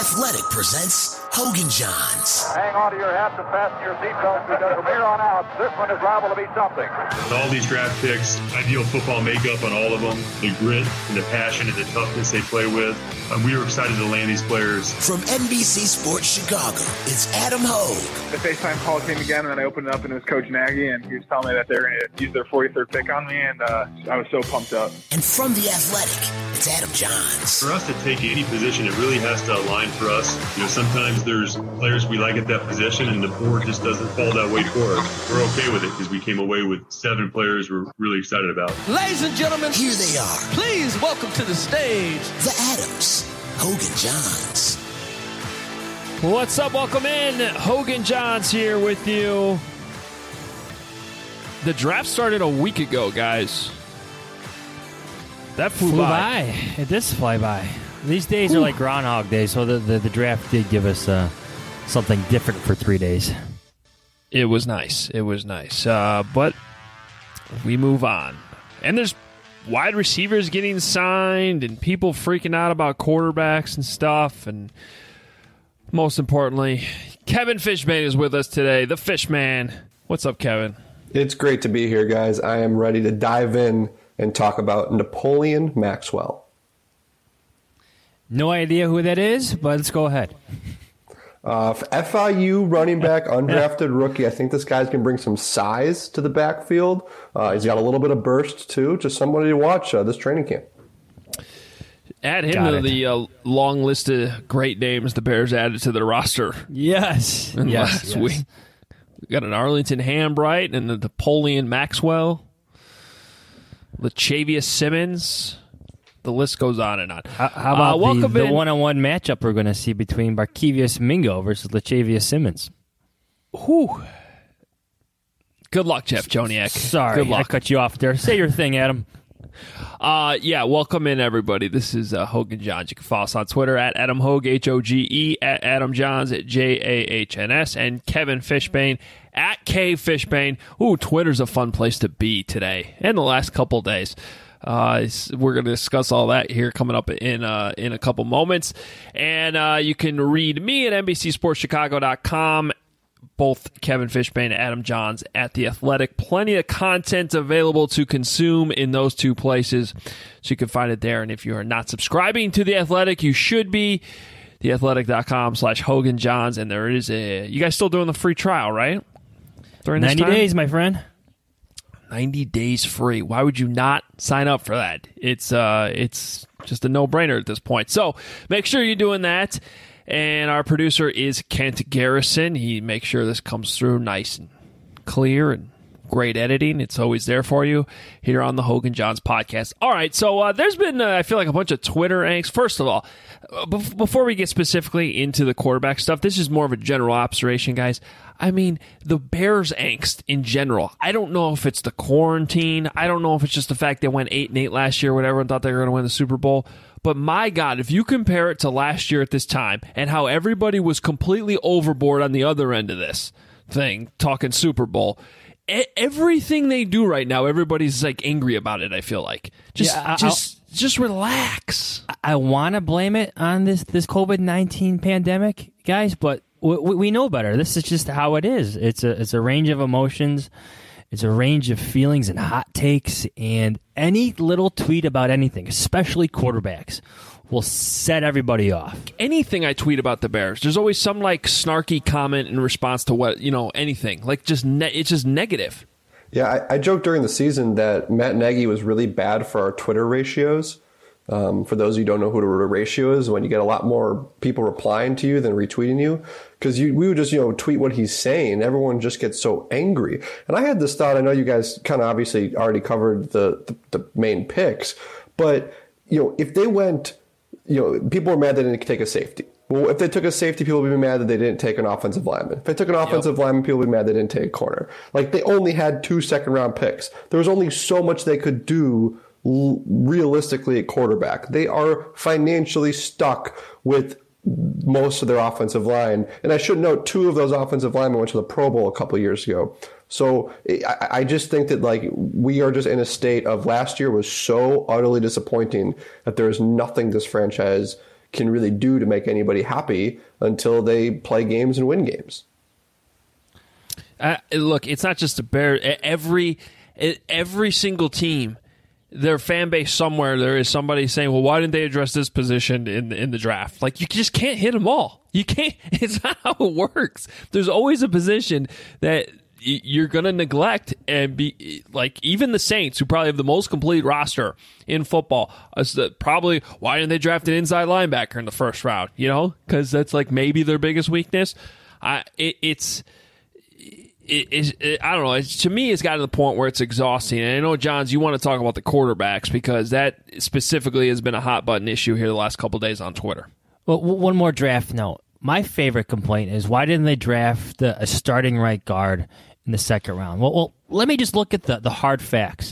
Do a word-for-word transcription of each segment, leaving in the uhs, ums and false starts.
Athletic presents Hogan Johns. Hang on to your hats and fasten your seatbelts because from here on out, this one is liable to be something. With all these draft picks, ideal football makeup on all of them, the grit and the passion and the toughness they play with. And we were excited to land these players. From N B C Sports Chicago, it's Adam Hogue. The FaceTime call came again, and then I opened it up, and it was Coach Nagy, and he was telling me that they're going to use their forty-third pick on me, and uh, I was so pumped up. And from The Athletic, it's Adam Johns. For us to take any position, it really has to align for us. You know, sometimes there's players we like at that position, and the board just doesn't fall that way for us. We're okay with it because we came away with seven players we're really excited about. Ladies and gentlemen, here they are. Please welcome to the stage the Adams, Hogan Johns. What's up? Welcome in. Hogan Johns here with you. The draft started a week ago, guys. That flew, flew by. by. It does fly by. These days Ooh. are like Groundhog Day, so the, the, the draft did give us uh, something different for three days. It was nice. It was nice. Uh, but we move on. And there's wide receivers getting signed and people freaking out about quarterbacks and stuff. And most importantly, Kevin Fishbain is with us today. The Fishman. What's up, Kevin? It's great to be here, guys. I am ready to dive in and talk about Napoleon Maxwell. No idea who that is, but let's go ahead. Uh, F I U running back, undrafted rookie. I think this guy's going to bring some size to the backfield. Uh, he's got a little bit of burst, too. Just somebody to watch uh, this training camp. Add him Got to it. the uh, long list of great names the Bears added to their roster. Yes. And yes, last yes. week. We got an Arlington Hambright and the Napoleon Maxwell. Latavius Simmons. The list goes on and on. How, how about uh, the, the in. one-on-one matchup we're going to see between Barkevious Mingo versus Latavius Simmons? Whew. Good luck, Jeff Joniak. Sorry, Good luck. I cut you off there. Say your thing, Adam. Uh, yeah, welcome in, everybody. This is uh, Hogan Johns. You can follow us on Twitter at Adam Hogue, H O G E, at Adam Johns, at J A H N S, and Kevin Fishbain, at K Fishbain. Ooh, Twitter's a fun place to be today and the last couple days. Uh, we're going to discuss all that here coming up in uh, in a couple moments. And uh, you can read me at N B C Sports Chicago dot com. Both Kevin Fishbain and Adam Johns at The Athletic. Plenty of content available to consume in those two places, so you can find it there. And if you are not subscribing to The Athletic, you should be. the athletic dot com slash Hogan Johns. And there is a... You guys still doing the free trial, right? During this ninety time? days, my friend. ninety days free. Why would you not sign up for that? It's uh, it's just a no-brainer at this point. So make sure you're doing that. And our producer is Kent Garrison. He makes sure this comes through nice and clear and great editing. It's always there for you here on the Hogan Johns podcast. All right, so uh, there's been, uh, I feel like, a bunch of Twitter angst. First of all, uh, be- before we get specifically into the quarterback stuff, this is more of a general observation, guys. I mean, the Bears angst in general. I don't know if it's the quarantine. I don't know if it's just the fact they went eight and eight last year, whatever, and thought they were going to win the Super Bowl. But my God, if you compare it to last year at this time and how everybody was completely overboard on the other end of this thing, talking Super Bowl, e- everything they do right now, everybody's like angry about it. I feel like just, Yeah, I- just, I'll, just relax. I want to blame it on this this COVID nineteen pandemic, guys, but we, we know better. This is just how it is. It's a it's a range of emotions. It's a range of feelings and hot takes, and any little tweet about anything, especially quarterbacks, will set everybody off. Anything I tweet about the Bears, there's always some like snarky comment in response to what, you know, anything. Like just ne- it's just negative. Yeah, I, I joked during the season that Matt Nagy was really bad for our Twitter ratios. Um, for those of you who don't know who the ratio is, when you get a lot more people replying to you than retweeting you, because you, we would just, you know, tweet what he's saying. Everyone just gets so angry. And I had this thought, I know you guys kind of obviously already covered the, the, the main picks, but, you know, if they went, you know, people were mad they didn't take a safety. Well, if they took a safety, people would be mad that they didn't take an offensive lineman. If they took an offensive yep. lineman, people would be mad they didn't take a corner. Like, they only had two second-round picks. There was only so much they could do realistically at quarterback. They are financially stuck with most of their offensive line. And I should note, two of those offensive linemen went to the Pro Bowl a couple of years ago. So I, I just think that, like, we are just in a state of last year was so utterly disappointing that there is nothing this franchise can really do to make anybody happy until they play games and win games. Uh, look, it's not just the Bears. Every every single team, their fan base somewhere, there is somebody saying, "Well, why didn't they address this position in the, in the draft?" Like, you just can't hit them all. You can't. It's not how it works. There's always a position that you're going to neglect, and be like, even the Saints, who probably have the most complete roster in football, probably, why didn't they draft an inside linebacker in the first round? You know, because that's like maybe their biggest weakness. I it, it's. It, it, it, I don't know. It's, to me, it's gotten to the point where it's exhausting. And I know, Johns, you want to talk about the quarterbacks because that specifically has been a hot button issue here the last couple of days on Twitter. Well, one more draft note. My favorite complaint is, why didn't they draft the, a starting right guard in the second round? Well, well let me just look at the, the hard facts.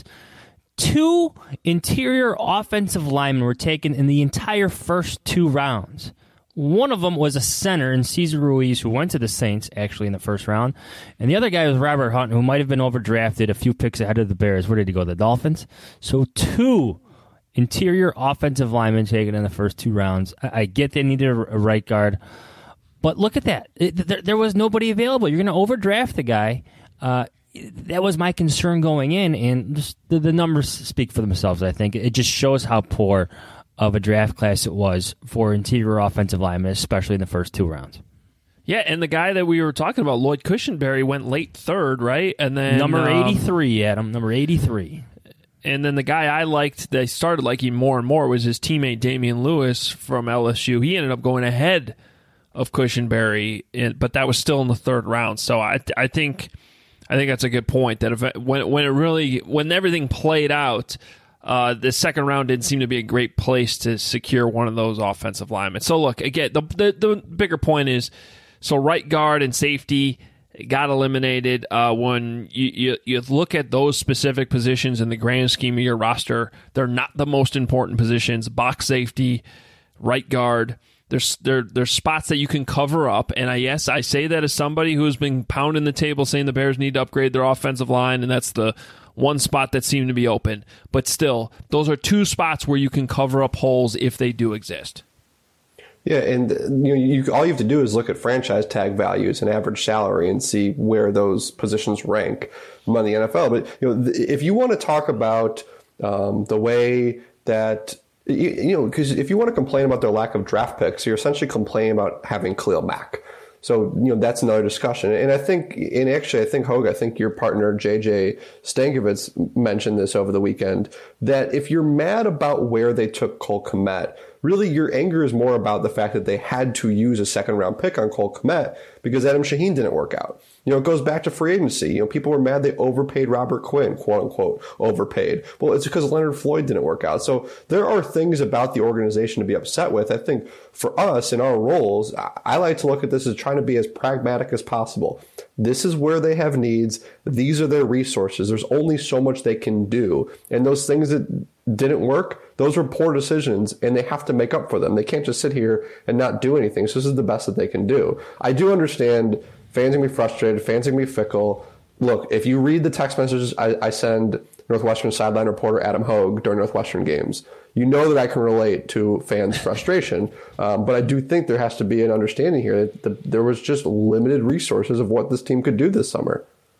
Two interior offensive linemen were taken in the entire first two rounds. One of them was a center in Cesar Ruiz, who went to the Saints, actually, in the first round. And the other guy was Robert Hunt, who might have been overdrafted a few picks ahead of the Bears. Where did he go? The Dolphins? So two interior offensive linemen taken in the first two rounds. I, I get they needed a, a right guard. But look at that. It, there, there was nobody available. You're going to overdraft the guy. Uh, that was my concern going in. And just the, the numbers speak for themselves, I think. It just shows how poor of a draft class it was for interior offensive linemen, especially in the first two rounds. Yeah, and the guy that we were talking about, Lloyd Cushenberry, went late third, right? And then number um, eighty-three, Adam, number eighty-three. And then the guy I liked, that I started liking more and more, was his teammate Damian Lewis from L S U. He ended up going ahead of Cushenberry, but that was still in the third round. So I, I think, I think that's a good point. That if, when when it really when everything played out. Uh, the second round didn't seem to be a great place to secure one of those offensive linemen. So, look, again, the, the the bigger point is, so right guard and safety got eliminated. Uh, when you, you, you look at those specific positions in the grand scheme of your roster, they're not the most important positions. Box safety, right guard, there's there, there's spots that you can cover up. And I yes, I say that as somebody who's been pounding the table saying the Bears need to upgrade their offensive line, and that's the one spot that seemed to be open. But still, those are two spots where you can cover up holes if they do exist. Yeah, and you know, you, all you have to do is look at franchise tag values and average salary and see where those positions rank among the N F L. But you know, if you want to talk about um, the way that you, you know, because if you want to complain about their lack of draft picks, you're essentially complaining about having Khalil Mack. So, you know, that's another discussion. And I think, and actually, I think, Hogue, I think your partner, J J Stankiewicz, mentioned this over the weekend, that if you're mad about where they took Cole Kmet, really your anger is more about the fact that they had to use a second round pick on Cole Kmet because Adam Shaheen didn't work out. You know, it goes back to free agency. You know, people were mad they overpaid Robert Quinn, quote unquote, overpaid. Well, it's because Leonard Floyd didn't work out. So there are things about the organization to be upset with. I think for us in our roles, I like to look at this as trying to be as pragmatic as possible. This is where they have needs. These are their resources. There's only so much they can do. And those things that didn't work, those were poor decisions, and they have to make up for them. They can't just sit here and not do anything. So this is the best that they can do. I do understand fans can be frustrated, fans can be fickle. Look, if you read the text messages I, I send Northwestern sideline reporter Adam Hogue during Northwestern games, you know that I can relate to fans' frustration. Um, but I do think there has to be an understanding here that the, there was just limited resources of what this team could do this summer.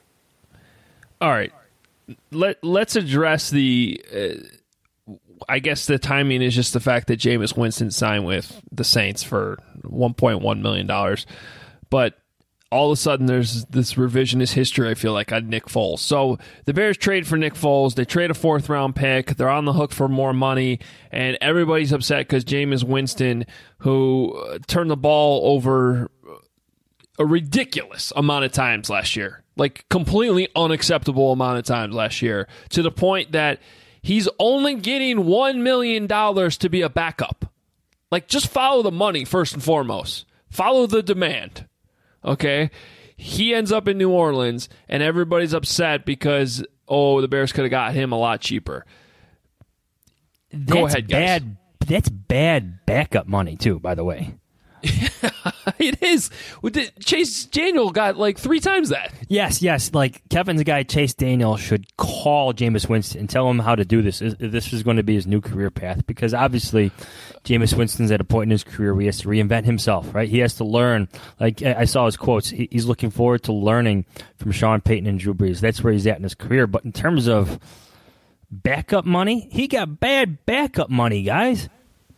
All right. Let, let's address the... Uh, I guess the timing is just the fact that Jameis Winston signed with the Saints for one point one million dollars. But all of a sudden, there's this revisionist history, I feel like, on Nick Foles. So the Bears trade for Nick Foles. They trade a fourth-round pick. They're on the hook for more money. And everybody's upset because Jameis Winston, who turned the ball over a ridiculous amount of times last year, like completely unacceptable amount of times last year, to the point that he's only getting one million dollars to be a backup. Like, just follow the money first and foremost. Follow the demand. Okay? He ends up in New Orleans, and everybody's upset because, oh, the Bears could have got him a lot cheaper. That's Go ahead, guys. Bad, that's bad backup money, too, by the way. It is. Chase Daniel got like three times that. Yes, yes. Like Kevin's guy, Chase Daniel, should call Jameis Winston and tell him how to do this. This is going to be his new career path, because obviously Jameis Winston's at a point in his career where he has to reinvent himself, right? He has to learn. Like I saw his quotes. He's looking forward to learning from Sean Payton and Drew Brees. That's where he's at in his career. But in terms of backup money, he got bad backup money, guys.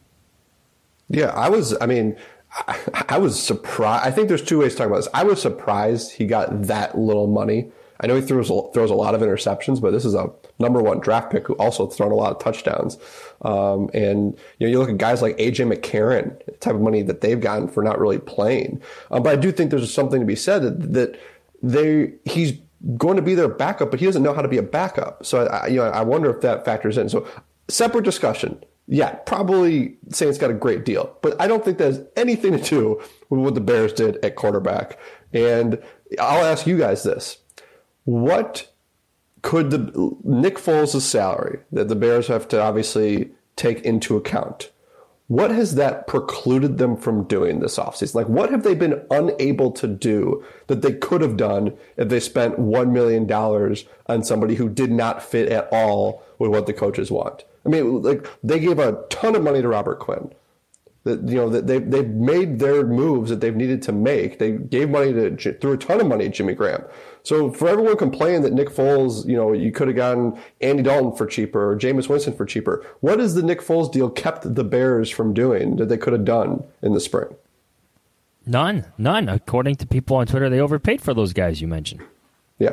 Yeah, I was, I mean, I, I was surprised. I think there's two ways to talk about this. I was surprised he got that little money. I know he throws, throws a lot of interceptions, but this is a number one draft pick who also thrown a lot of touchdowns. Um, and, you know, you look at guys like A J McCarron, the type of money that they've gotten for not really playing. Um, but I do think there's something to be said that, that they, he's going to be their backup, but he doesn't know how to be a backup. So, I, you know, I wonder if that factors in. So separate discussion. Yeah, probably Saints got a great deal, but I don't think that has anything to do with what the Bears did at quarterback. And I'll ask you guys this. What could the Nick Foles' salary that the Bears have to obviously take into account, what has that precluded them from doing this offseason? Like, what have they been unable to do that they could have done if they spent one million dollars on somebody who did not fit at all with what the coaches want? I mean, like, they gave a ton of money to Robert Quinn. That, you know, that they they've made their moves that they've needed to make. They gave money to threw a ton of money at Jimmy Graham. So for everyone complaining that Nick Foles, you know, you could have gotten Andy Dalton for cheaper or Jameis Winston for cheaper, what is the Nick Foles deal kept the Bears from doing that they could have done in the spring? None, none. According to people on Twitter, they overpaid for those guys you mentioned. Yeah.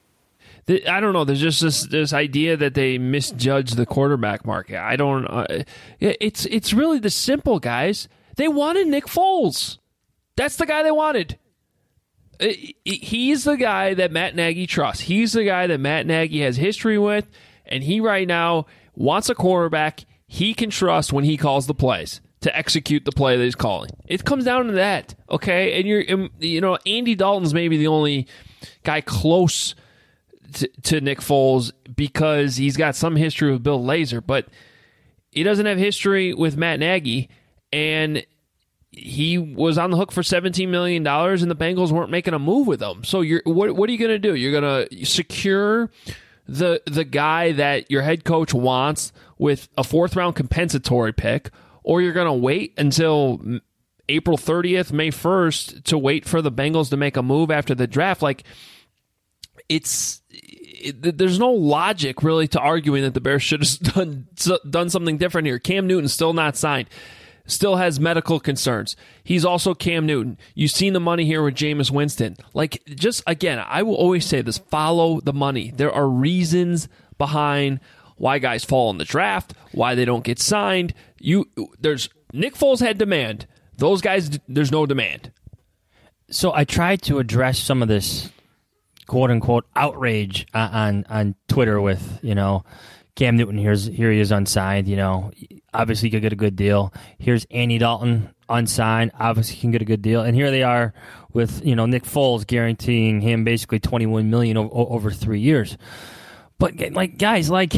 I don't know. There's just this this idea that they misjudged the quarterback market. I don't. Uh, it's it's really the simple, guys. They wanted Nick Foles. That's the guy they wanted. He's the guy that Matt Nagy trusts. He's the guy that Matt Nagy has history with, and he right now wants a quarterback he can trust when he calls the plays to execute the play that he's calling. It comes down to that, okay? And you're, you know, Andy Dalton's maybe the only guy close To, to Nick Foles because he's got some history with Bill Lazor, but he doesn't have history with Matt Nagy, and he was on the hook for seventeen million dollars, and the Bengals weren't making a move with him. So you're what, what are you going to do? You're going to secure the the guy that your head coach wants with a fourth-round compensatory pick, or you're going to wait until April thirtieth, May first to wait for the Bengals to make a move after the draft? Like, it's it, there's no logic really to arguing that the Bears should have done done something different here. Cam Newton's still not signed, still has medical concerns. He's also Cam Newton. You've seen the money here with Jameis Winston. Like, just again, I will always say this: follow the money. There are reasons behind why guys fall in the draft, why they don't get signed. You there's Nick Foles had demand. Those guys, there's no demand. So I tried to address some of this quote-unquote outrage on on Twitter with, you know, Cam Newton, here's here he is unsigned, you know, obviously he could get a good deal. Here's Andy Dalton unsigned, obviously he can get a good deal. And here they are with, you know, Nick Foles guaranteeing him basically twenty-one million dollars over, over three years. But, like, guys, like,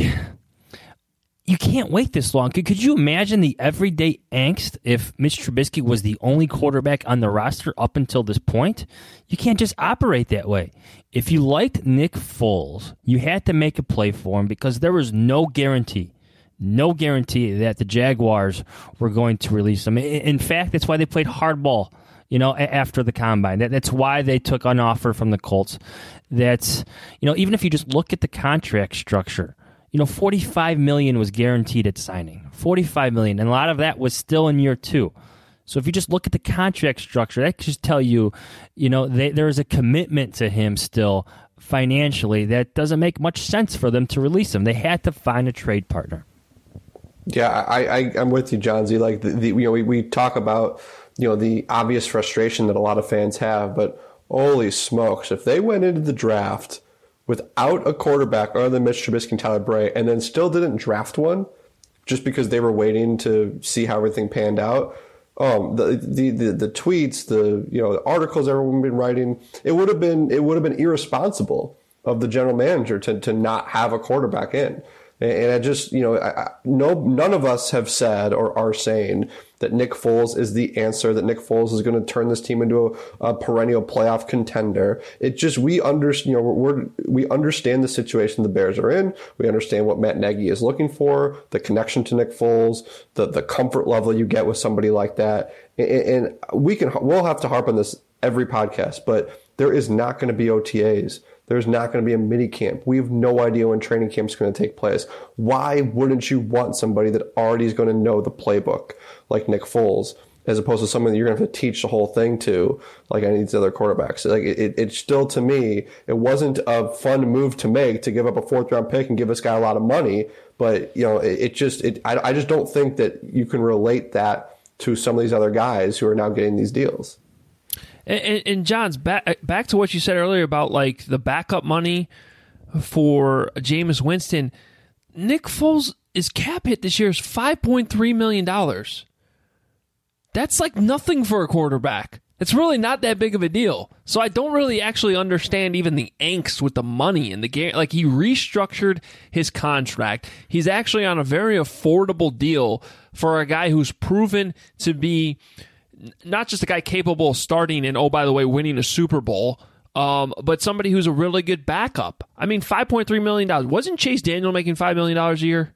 you can't wait this long. Could, could you imagine the everyday angst if Mitch Trubisky was the only quarterback on the roster up until this point? You can't just operate that way. If you liked Nick Foles, you had to make a play for him because there was no guarantee, no guarantee that the Jaguars were going to release him. In fact, that's why they played hardball, you know, after the combine. That, that's why they took an offer from the Colts. That's, you know, even if you just look at the contract structure, you know, forty-five million dollars was guaranteed at signing. forty-five million dollars, and a lot of that was still in year two. So if you just look at the contract structure, that could just tell you, you know, they, there is a commitment to him still financially that doesn't make much sense for them to release him. They had to find a trade partner. Yeah, I, I, I'm with you, John Z. Like, the, the, you know, we, we talk about, you know, the obvious frustration that a lot of fans have, but holy smokes, if they went into the draft without a quarterback other than Mitch Trubisky and Tyler Bray, and then still didn't draft one just because they were waiting to see how everything panned out. Um, the, the the the tweets, the you know the articles everyone been writing, it would have been it would have been irresponsible of the general manager to to not have a quarterback in. And, and I just, you know, I, I, no, none of us have said or are saying that Nick Foles is the answer, that Nick Foles is going to turn this team into a, a perennial playoff contender. It just, we understand, you know, we're, we understand the situation the Bears are in. We understand what Matt Nagy is looking for, the connection to Nick Foles, the, the comfort level you get with somebody like that. And, and we can, we'll have to harp on this every podcast, but there is not going to be O T As. There's not going to be a mini camp. We have no idea when training camp is going to take place. Why wouldn't you want somebody that already is going to know the playbook like Nick Foles, as opposed to someone that you're going to have to teach the whole thing to, like any of these other quarterbacks? Like it, it still, to me, it wasn't a fun move to make to give up a fourth round pick and give this guy a lot of money. But you know, it, it just, it, I, I just don't think that you can relate that to some of these other guys who are now getting these deals. And, and John's back back to what you said earlier about like the backup money for Jameis Winston. Nick Foles' cap hit this year is five point three million dollars. That's like nothing for a quarterback. It's really not that big of a deal. So I don't really actually understand even the angst with the money and the game. Like, he restructured his contract. He's actually on a very affordable deal for a guy who's proven to be not just a guy capable of starting and, oh, by the way, winning a Super Bowl, um, but somebody who's a really good backup. I mean, five point three million dollars. Wasn't Chase Daniel making five million dollars a year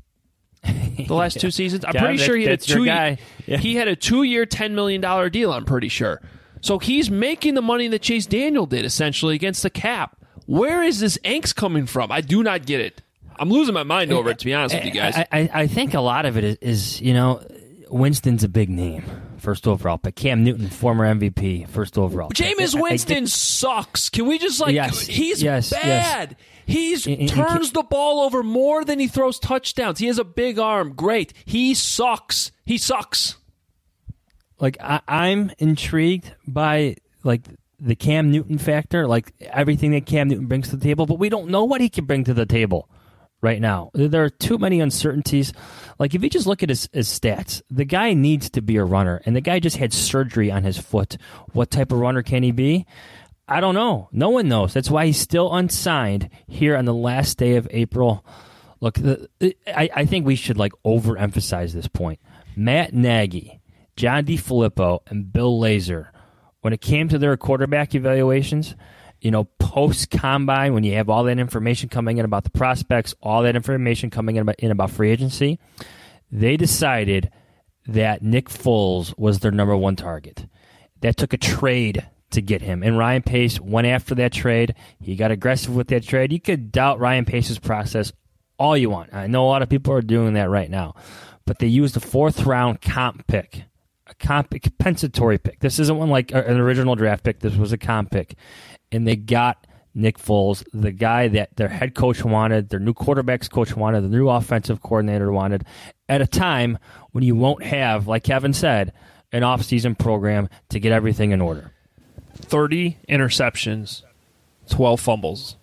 the last two seasons? I'm yeah, pretty sure he had a two guy. Yeah. He had a two-year, ten million dollars deal, I'm pretty sure. So he's making the money that Chase Daniel did, essentially, against the cap. Where is this angst coming from? I do not get it. I'm losing my mind over it, to be honest with you guys. I, I, I think a lot of it is, is, you know, Winston's a big name, first overall pick. Cam Newton, former M V P, first overall pick. Jameis Winston I, I sucks. Can we just, like, yes, he's yes, bad. Yes. He's and, and, turns and, the ball over more than he throws touchdowns. He has a big arm. Great. He sucks. He sucks. Like, I, I'm intrigued by, like, the Cam Newton factor, like everything that Cam Newton brings to the table, but we don't know what he can bring to the table right now. There are too many uncertainties. Like, if you just look at his, his stats, the guy needs to be a runner, and the guy just had surgery on his foot. What type of runner can he be? I don't know. No one knows. That's why he's still unsigned here on the last day of April. Look, the, I, I think we should, like, overemphasize this point. Matt Nagy, John DeFilippo, and Bill Lazor, when it came to their quarterback evaluations, you know, post-combine, when you have all that information coming in about the prospects, all that information coming in about, in about free agency, they decided that Nick Foles was their number one target. That took a trade to get him. And Ryan Pace went after that trade. He got aggressive with that trade. You could doubt Ryan Pace's process all you want. I know a lot of people are doing that right now. But they used a fourth-round comp pick. A comp compensatory pick. This isn't one like an original draft pick. This was a comp pick. And they got Nick Foles, the guy that their head coach wanted, their new quarterbacks coach wanted, the new offensive coordinator wanted, at a time when you won't have, like Kevin said, an offseason program to get everything in order. thirty interceptions, twelve fumbles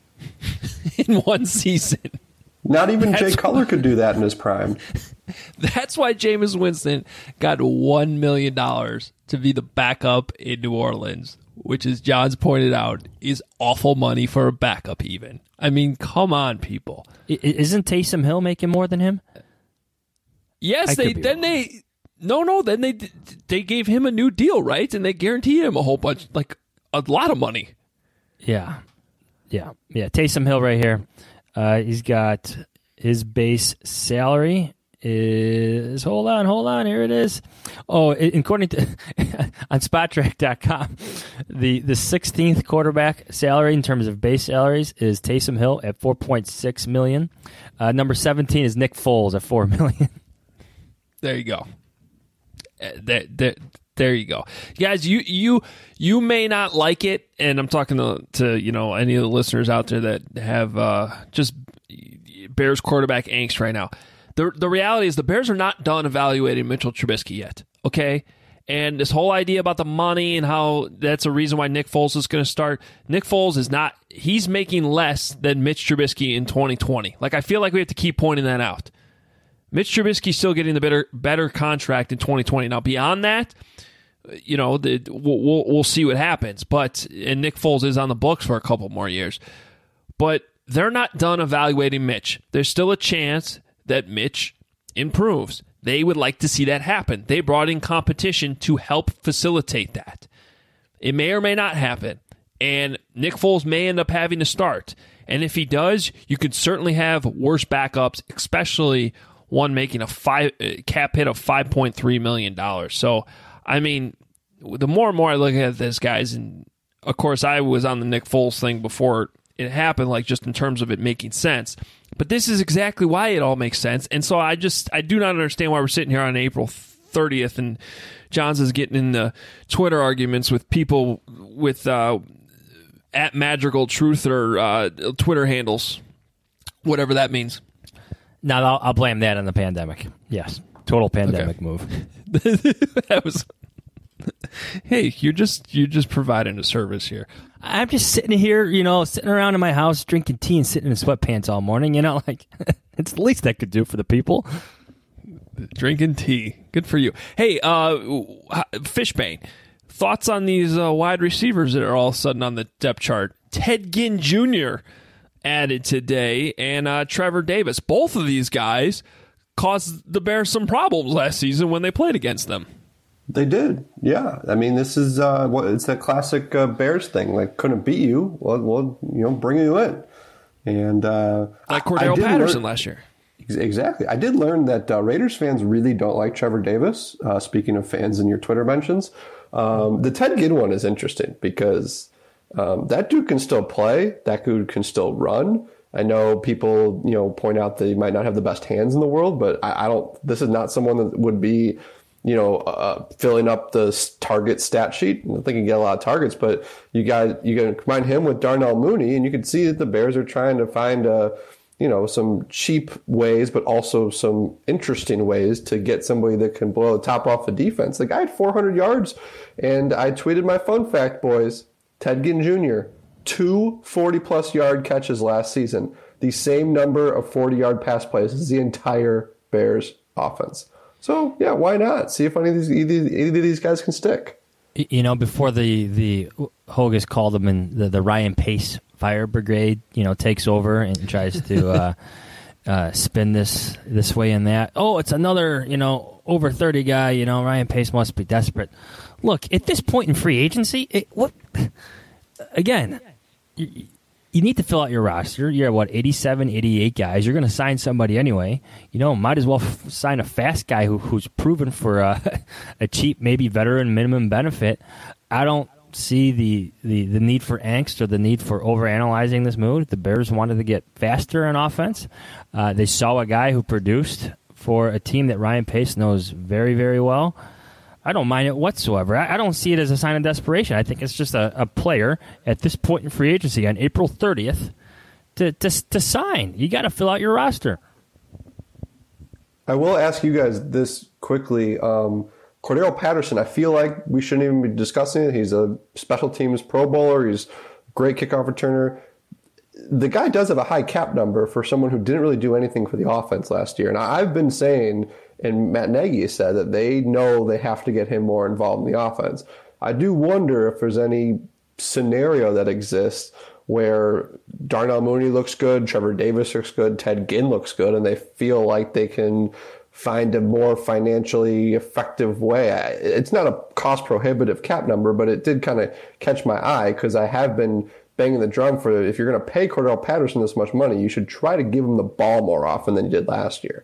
in one season. Not even That's Jay Cutler could do that in his prime. That's why Jameis Winston got one million dollars to be the backup in New Orleans, which, as John's pointed out, is awful money for a backup even. I mean, come on, people. Isn't Taysom Hill making more than him? Yes, they then wrong. they no no then they they gave him a new deal, right? And they guaranteed him a whole bunch, like a lot of money. Yeah, yeah, yeah. Taysom Hill right here. Uh, he's got his base salary is hold on, hold on. Here it is. Oh, it, according to on Spot Track dot com, the the sixteenth quarterback salary in terms of base salaries is Taysom Hill at four point six million. Uh, number seventeen is Nick Foles at four million. There you go. Uh, there, there, there you go, guys. You you you may not like it, and I'm talking to to you know any of the listeners out there that have uh, just Bears quarterback angst right now. The the reality is the Bears are not done evaluating Mitchell Trubisky yet, okay? And this whole idea about the money and how that's a reason why Nick Foles is going to start. Nick Foles is not, he's making less than Mitch Trubisky in twenty twenty. Like, I feel like we have to keep pointing that out. Mitch Trubisky's still getting the better better contract in twenty twenty. Now, beyond that, you know, the, we'll, we'll we'll see what happens. But, and Nick Foles is on the books for a couple more years. But they're not done evaluating Mitch. There's still a chance that Mitch improves. They would like to see that happen. They brought in competition to help facilitate that. It may or may not happen, and Nick Foles may end up having to start. And if he does, you could certainly have worse backups, especially one making a five cap hit of five point three million dollars. So, I mean, the more and more I look at this, guys, and of course I was on the Nick Foles thing before it happened, like just in terms of it making sense. But this is exactly why it all makes sense. And so I just, I do not understand why we're sitting here on April thirtieth and Johns is getting in the Twitter arguments with people with uh, at Madrigal Truth or uh, Twitter handles, whatever that means. No, I'll, I'll blame that on the pandemic. Yes, total pandemic okay. move. That was. Hey, you're just you're just providing a service here. I'm just sitting here, you know, sitting around in my house drinking tea and sitting in sweatpants all morning. You know, like it's the least I could do for the people. Drinking tea, good for you. Hey, uh, Fishbane, thoughts on these uh, wide receivers that are all of a sudden on the depth chart? Ted Ginn Junior added today, and uh, Trevor Davis. Both of these guys caused the Bears some problems last season when they played against them. They did, yeah. I mean, this is uh, what it's that classic uh, Bears thing. Like, couldn't beat you, well, well you know, bring you in, and uh, like Cordero Patterson learn, last year. Exactly. I did learn that uh, Raiders fans really don't like Trevor Davis. Uh, speaking of fans in your Twitter mentions, um, the Ted Ginn one is interesting because um, that dude can still play. That dude can still run. I know people, you know, point out that he might not have the best hands in the world, but I, I don't. This is not someone that would be, you know, uh, filling up the target stat sheet. I don't think he can get a lot of targets, but you guys, you can combine him with Darnell Mooney, and you can see that the Bears are trying to find, uh, you know, some cheap ways, but also some interesting ways to get somebody that can blow the top off the defense. The guy had four hundred yards, and I tweeted my fun fact, boys. Ted Ginn Junior, two forty-plus yard catches last season. The same number of forty-yard pass plays as the entire Bears offense. So, yeah, why not? See if any of these, any of these guys can stick. You know, before the, the Hogus called them in the, the Ryan Pace Fire Brigade, you know, takes over and tries to uh, uh, spin this this way and that. Oh, it's another, you know, over thirty guy, you know, Ryan Pace must be desperate. Look, at this point in free agency, it, what again, you, you need to fill out your roster. You're, what, eighty-seven, eighty-eight guys. You're going to sign somebody anyway. You know, might as well f- sign a fast guy who, who's proven for a, a cheap, maybe veteran minimum benefit. I don't see the, the, the need for angst or the need for overanalyzing this move. The Bears wanted to get faster on offense. Uh, they saw a guy who produced for a team that Ryan Pace knows very, very well. I don't mind it whatsoever. I, I don't see it as a sign of desperation. I think it's just a, a player at this point in free agency on April thirtieth to to, to sign. You got to fill out your roster. I will ask you guys this quickly. Um, Cordero Patterson, I feel like we shouldn't even be discussing it. He's a special teams Pro Bowler. He's a great kickoff returner. The guy does have a high cap number for someone who didn't really do anything for the offense last year. And I've been saying, and Matt Nagy said, that they know they have to get him more involved in the offense. I do wonder if there's any scenario that exists where Darnell Mooney looks good, Trevor Davis looks good, Ted Ginn looks good, and they feel like they can find a more financially effective way. It's not a cost-prohibitive cap number, but it did kind of catch my eye because I have been banging the drum for, if you're going to pay Cordell Patterson this much money, you should try to give him the ball more often than you did last year.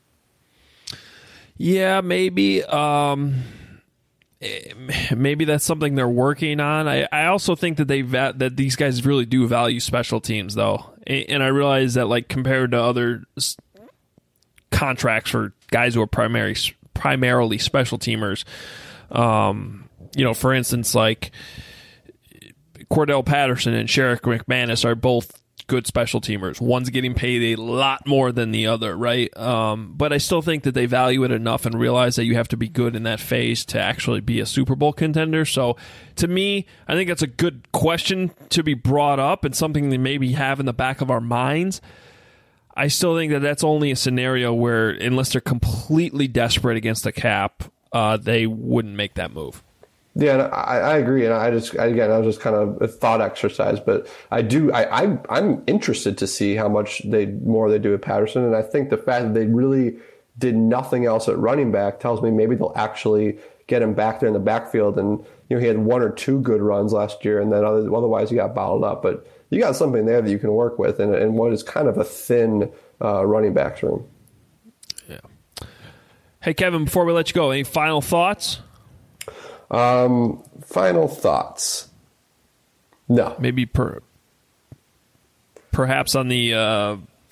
Yeah, maybe. Um, maybe that's something they're working on. I, I also think that they va- that these guys really do value special teams, though, and I realize that, like, compared to other s- contracts for guys who are primary primarily special teamers, um, you know, for instance, like Cordell Patterson and Sherrick McManus are both good special teamers. One's getting paid a lot more than the other, right? Um, but I still think that they value it enough and realize that you have to be good in that phase to actually be a Super Bowl contender. So to me, I think that's a good question to be brought up and something they maybe have in the back of our minds. I still think that that's only a scenario where, unless they're completely desperate against the cap, uh, they wouldn't make that move. Yeah, and I, I agree, and I just again, I was just kind of a thought exercise, but I do, I, I, I'm interested to see how much they more they do with Patterson, and I think the fact that they really did nothing else at running back tells me maybe they'll actually get him back there in the backfield. And you know, he had one or two good runs last year, and then other, otherwise he got bottled up. But you got something there that you can work with, and, and what is kind of a thin uh, running backs room. Yeah. Hey Kevin, before we let you go, any final thoughts? Um, final thoughts. No. Maybe per, perhaps on the uh,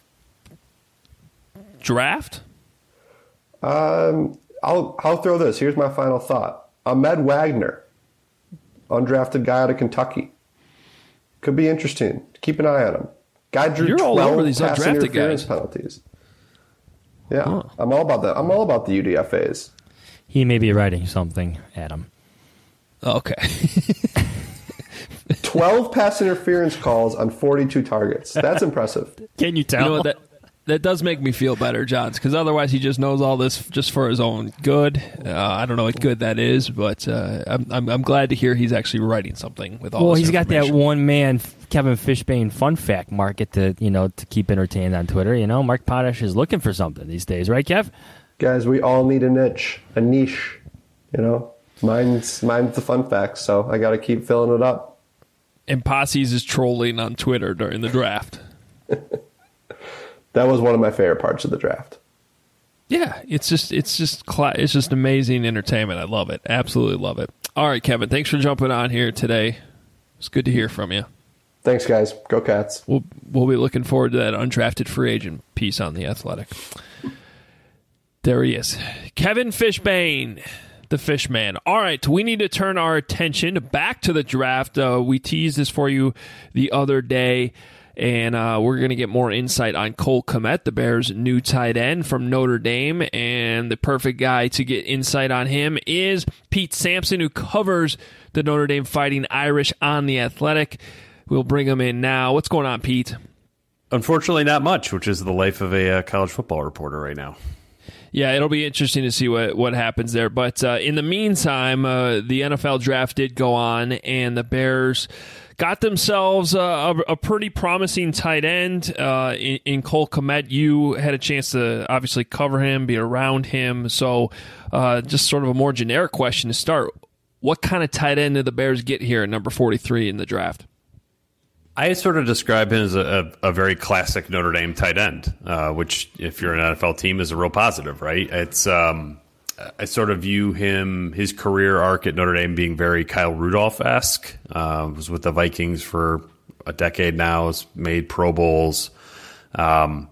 draft? Um, I'll I'll throw this. Here's my final thought. Ahmed Wagner, undrafted guy out of Kentucky. Could be interesting. Keep an eye on him. Guy drew You're all over twelve these pass undrafted interference guys. penalties. Yeah, Huh. I'm all about that. I'm all about the U D F As. He may be writing something, Adam. Okay. twelve pass interference calls on forty-two targets. That's impressive. Can you tell? You know what, that that does make me feel better, Johns, because otherwise he just knows all this just for his own good. Uh, I don't know what good that is, but uh, I'm, I'm I'm glad to hear he's actually writing something with all. Well, this he's got that information. one man Kevin Fishbane fun fact market to you know to keep entertained on Twitter. You know, Mark Potash is looking for something these days, right, Kev? Guys, we all need a niche, a niche. You know, mine's mine's the fun facts, so I got to keep filling it up. And Posse's is trolling on Twitter during the draft. That was one of my favorite parts of the draft. Yeah, it's just it's just cla- it's just amazing entertainment. I love it. Absolutely love it. All right, Kevin, thanks for jumping on here today. It's good to hear from you. Thanks, guys. Go Cats. We'll we'll be looking forward to that undrafted free agent piece on The Athletic. There he is. Kevin Fishbane, the Fishman. All right, we need to turn our attention back to the draft. Uh, we teased this for you the other day. And uh, we're going to get more insight on Cole Kmet, the Bears' new tight end from Notre Dame. And the perfect guy to get insight on him is Pete Sampson, who covers the Notre Dame Fighting Irish on The Athletic. We'll bring him in now. What's going on, Pete? Unfortunately, not much, which is the life of a uh, college football reporter right now. Yeah, it'll be interesting to see what, what happens there. But uh, in the meantime, uh, the N F L draft did go on, and the Bears got themselves a, a, a pretty promising tight end uh, in, in Cole Kmet. You had a chance to obviously cover him, be around him. So uh, just sort of a more generic question to start. What kind of tight end did the Bears get here at number forty-three in the draft? I sort of describe him as a, a, a very classic Notre Dame tight end, uh, which if you're an N F L team is a real positive, right? It's um, I sort of view him, his career arc at Notre Dame being very Kyle Rudolph-esque. Uh, was with the Vikings for a decade now, has made Pro Bowls. Um,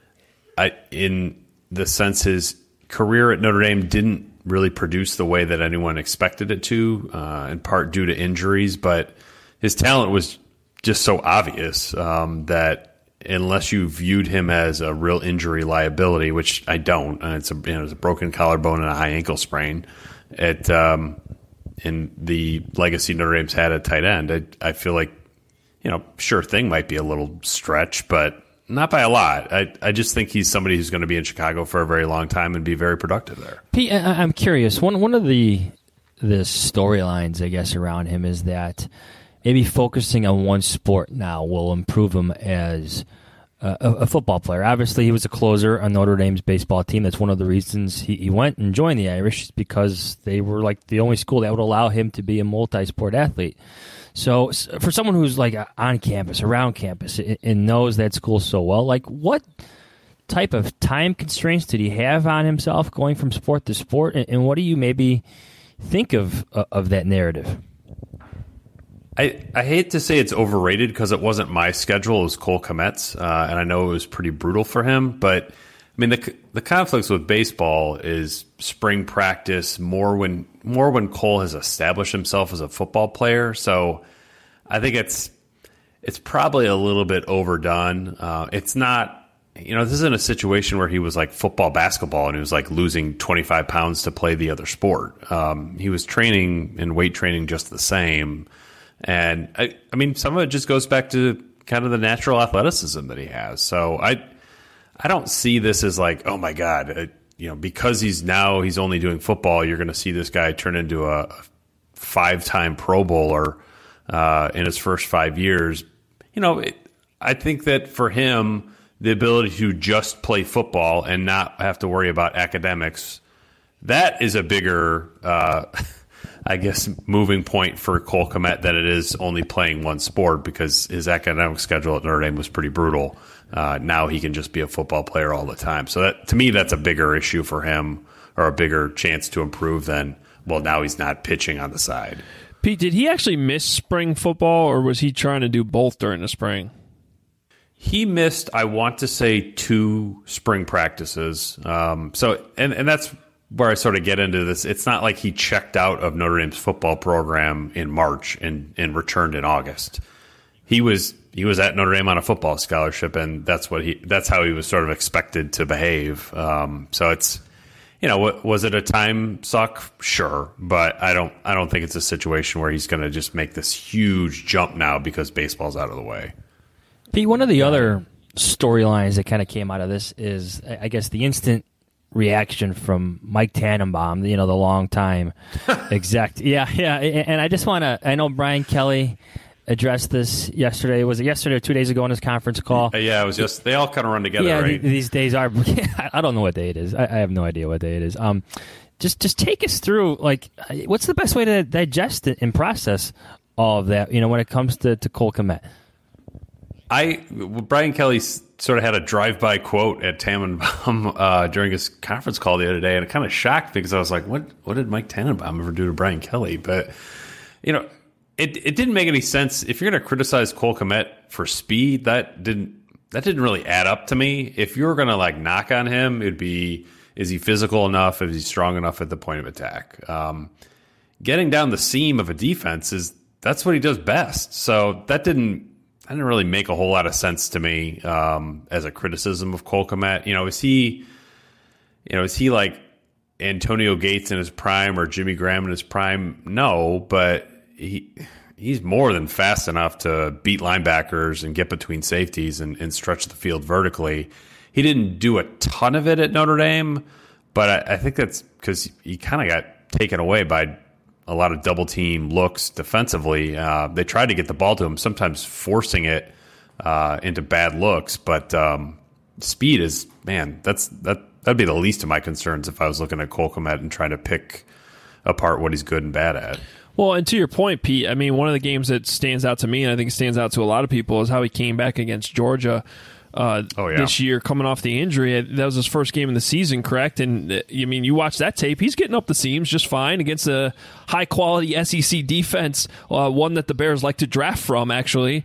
I, in the sense his career at Notre Dame didn't really produce the way that anyone expected it to, uh, in part due to injuries, but his talent was just so obvious um, that unless you viewed him as a real injury liability, which I don't, and it's a, you know, it's a broken collarbone and a high ankle sprain, it um, in the legacy Notre Dame's had at tight end, I, I feel like, you know, sure thing might be a little stretch, but not by a lot. I, I just think he's somebody who's going to be in Chicago for a very long time and be very productive there. Pete, I, I'm curious. One one of the the storylines, I guess, around him is that maybe focusing on one sport now will improve him as a, a football player. Obviously, he was a closer on Notre Dame's baseball team. That's one of the reasons he, he went and joined the Irish, because they were like the only school that would allow him to be a multi-sport athlete. So for someone who's like on campus, around campus, and knows that school so well, like what type of time constraints did he have on himself going from sport to sport, and what do you maybe think of of that narrative? I, I hate to say it's overrated because it wasn't my schedule. It was Cole Kmet's, uh, and I know it was pretty brutal for him. But, I mean, the the conflicts with baseball is spring practice more when more when Cole has established himself as a football player. So I think it's it's probably a little bit overdone. Uh, it's not, you know, this isn't a situation where he was like football, basketball, and he was like losing twenty-five pounds to play the other sport. Um, he was training and weight training just the same. And I, I mean, some of it just goes back to kind of the natural athleticism that he has. So I, I don't see this as like, oh my God, uh, you know, because he's now he's only doing football, you're going to see this guy turn into a five-time Pro Bowler uh, in his first five years. You know, it, I think that for him, the ability to just play football and not have to worry about academics, that is a bigger, uh, I guess, moving point for Cole Kmet than it is only playing one sport, because his academic schedule at Notre Dame was pretty brutal. Uh, now he can just be a football player all the time. So that, to me, that's a bigger issue for him, or a bigger chance to improve than, well, now he's not pitching on the side. Pete, did he actually miss spring football, or was he trying to do both during the spring? He missed, I want to say, two spring practices. Um, so, and, and that's where I sort of get into this. It's not like he checked out of Notre Dame's football program in March and, and returned in August. He was he was at Notre Dame on a football scholarship, and that's what he that's how he was sort of expected to behave. Um, so it's, you know, was it a time suck? Sure, but I don't I don't think it's a situation where he's going to just make this huge jump now because baseball's out of the way. Pete, one of the other storylines that kind of came out of this is, I guess, the instant reaction from Mike Tannenbaum, you know, the long time exec. Yeah, yeah. And I just want to, I know Brian Kelly addressed this yesterday. Was it yesterday or two days ago on his conference call? Yeah, it was just, they all kind of run together, yeah, right? These days are, I don't know what day it is. I have no idea what day it is. Um, just, just take us through, like, what's the best way to digest it and process all of that, you know, when it comes to, to Cole Kmet? I Brian Kelly sort of had a drive-by quote at Tannenbaum uh, during his conference call the other day, and it kind of shocked me because I was like, "What? What did Mike Tannenbaum ever do to Brian Kelly?" But you know, it it didn't make any sense. If you're going to criticize Cole Kmet for speed, that didn't that didn't really add up to me. If you were going to like knock on him, it'd be, is he physical enough? Is he strong enough at the point of attack? Um, getting down the seam of a defense is that's what he does best. So that didn't. That didn't really make a whole lot of sense to me um, as a criticism of Cole Kmet. You know, is he, you know, is he like Antonio Gates in his prime or Jimmy Graham in his prime? No, but he he's more than fast enough to beat linebackers and get between safeties and, and stretch the field vertically. He didn't do a ton of it at Notre Dame, but I, I think that's because he kind of got taken away by a lot of double team looks defensively. Uh, they tried to get the ball to him, sometimes forcing it uh, into bad looks. But um, speed is, man, that's that that'd be the least of my concerns if I was looking at Cole Kmet and trying to pick apart what he's good and bad at. Well, and to your point, Pete, I mean, one of the games that stands out to me, and I think it stands out to a lot of people, is how he came back against Georgia uh, oh, yeah. this year, coming off the injury. That was his first game in the season, correct? And uh, I mean, you watch that tape; he's getting up the seams just fine against a high-quality S E C defense, uh, one that the Bears like to draft from, actually,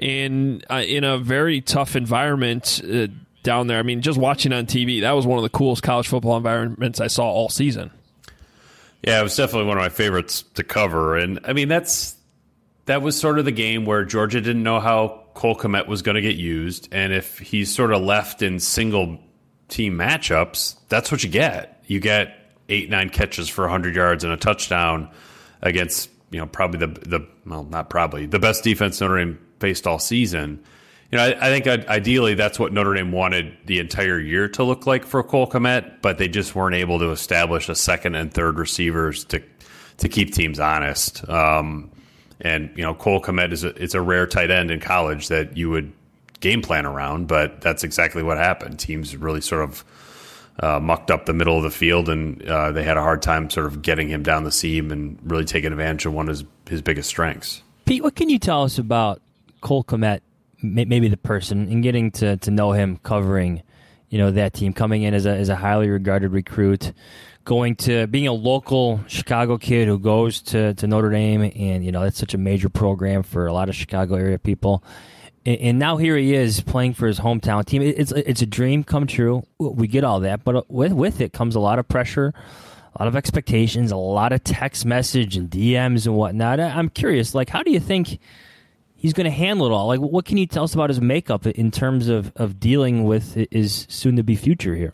and uh, in a very tough environment uh, down there. I mean, just watching on T V, that was one of the coolest college football environments I saw all season. Yeah, it was definitely one of my favorites to cover, and I mean that's that was sort of the game where Georgia didn't know how Cole Kmet was going to get used, and if he's sort of left in single team matchups, that's what you get. You get eight, nine catches for one hundred yards and a touchdown against, you know, probably the the well, not probably the best defense Notre Dame faced all season. You know, I, I think ideally that's what Notre Dame wanted the entire year to look like for Cole Kmet, but they just weren't able to establish a second and third receivers to to keep teams honest. Um, And, you know, Cole Kmet is a, it's a rare tight end in college that you would game plan around, but that's exactly what happened. Teams really sort of uh, mucked up the middle of the field, and uh, they had a hard time sort of getting him down the seam and really taking advantage of one of his, his biggest strengths. Pete, what can you tell us about Cole Kmet, maybe the person, and getting to, to know him covering, you know, that team, coming in as a, as a highly regarded recruit, going to being a local Chicago kid who goes to, to Notre Dame, and, you know, that's such a major program for a lot of Chicago area people. And, and now here he is playing for his hometown team. It's it's a dream come true. We get all that, but with, with it comes a lot of pressure, a lot of expectations, a lot of text message and D Ms and whatnot. I'm curious, like, how do you think he's going to handle it all? Like, what can you tell us about his makeup in terms of, of dealing with his soon-to-be future here?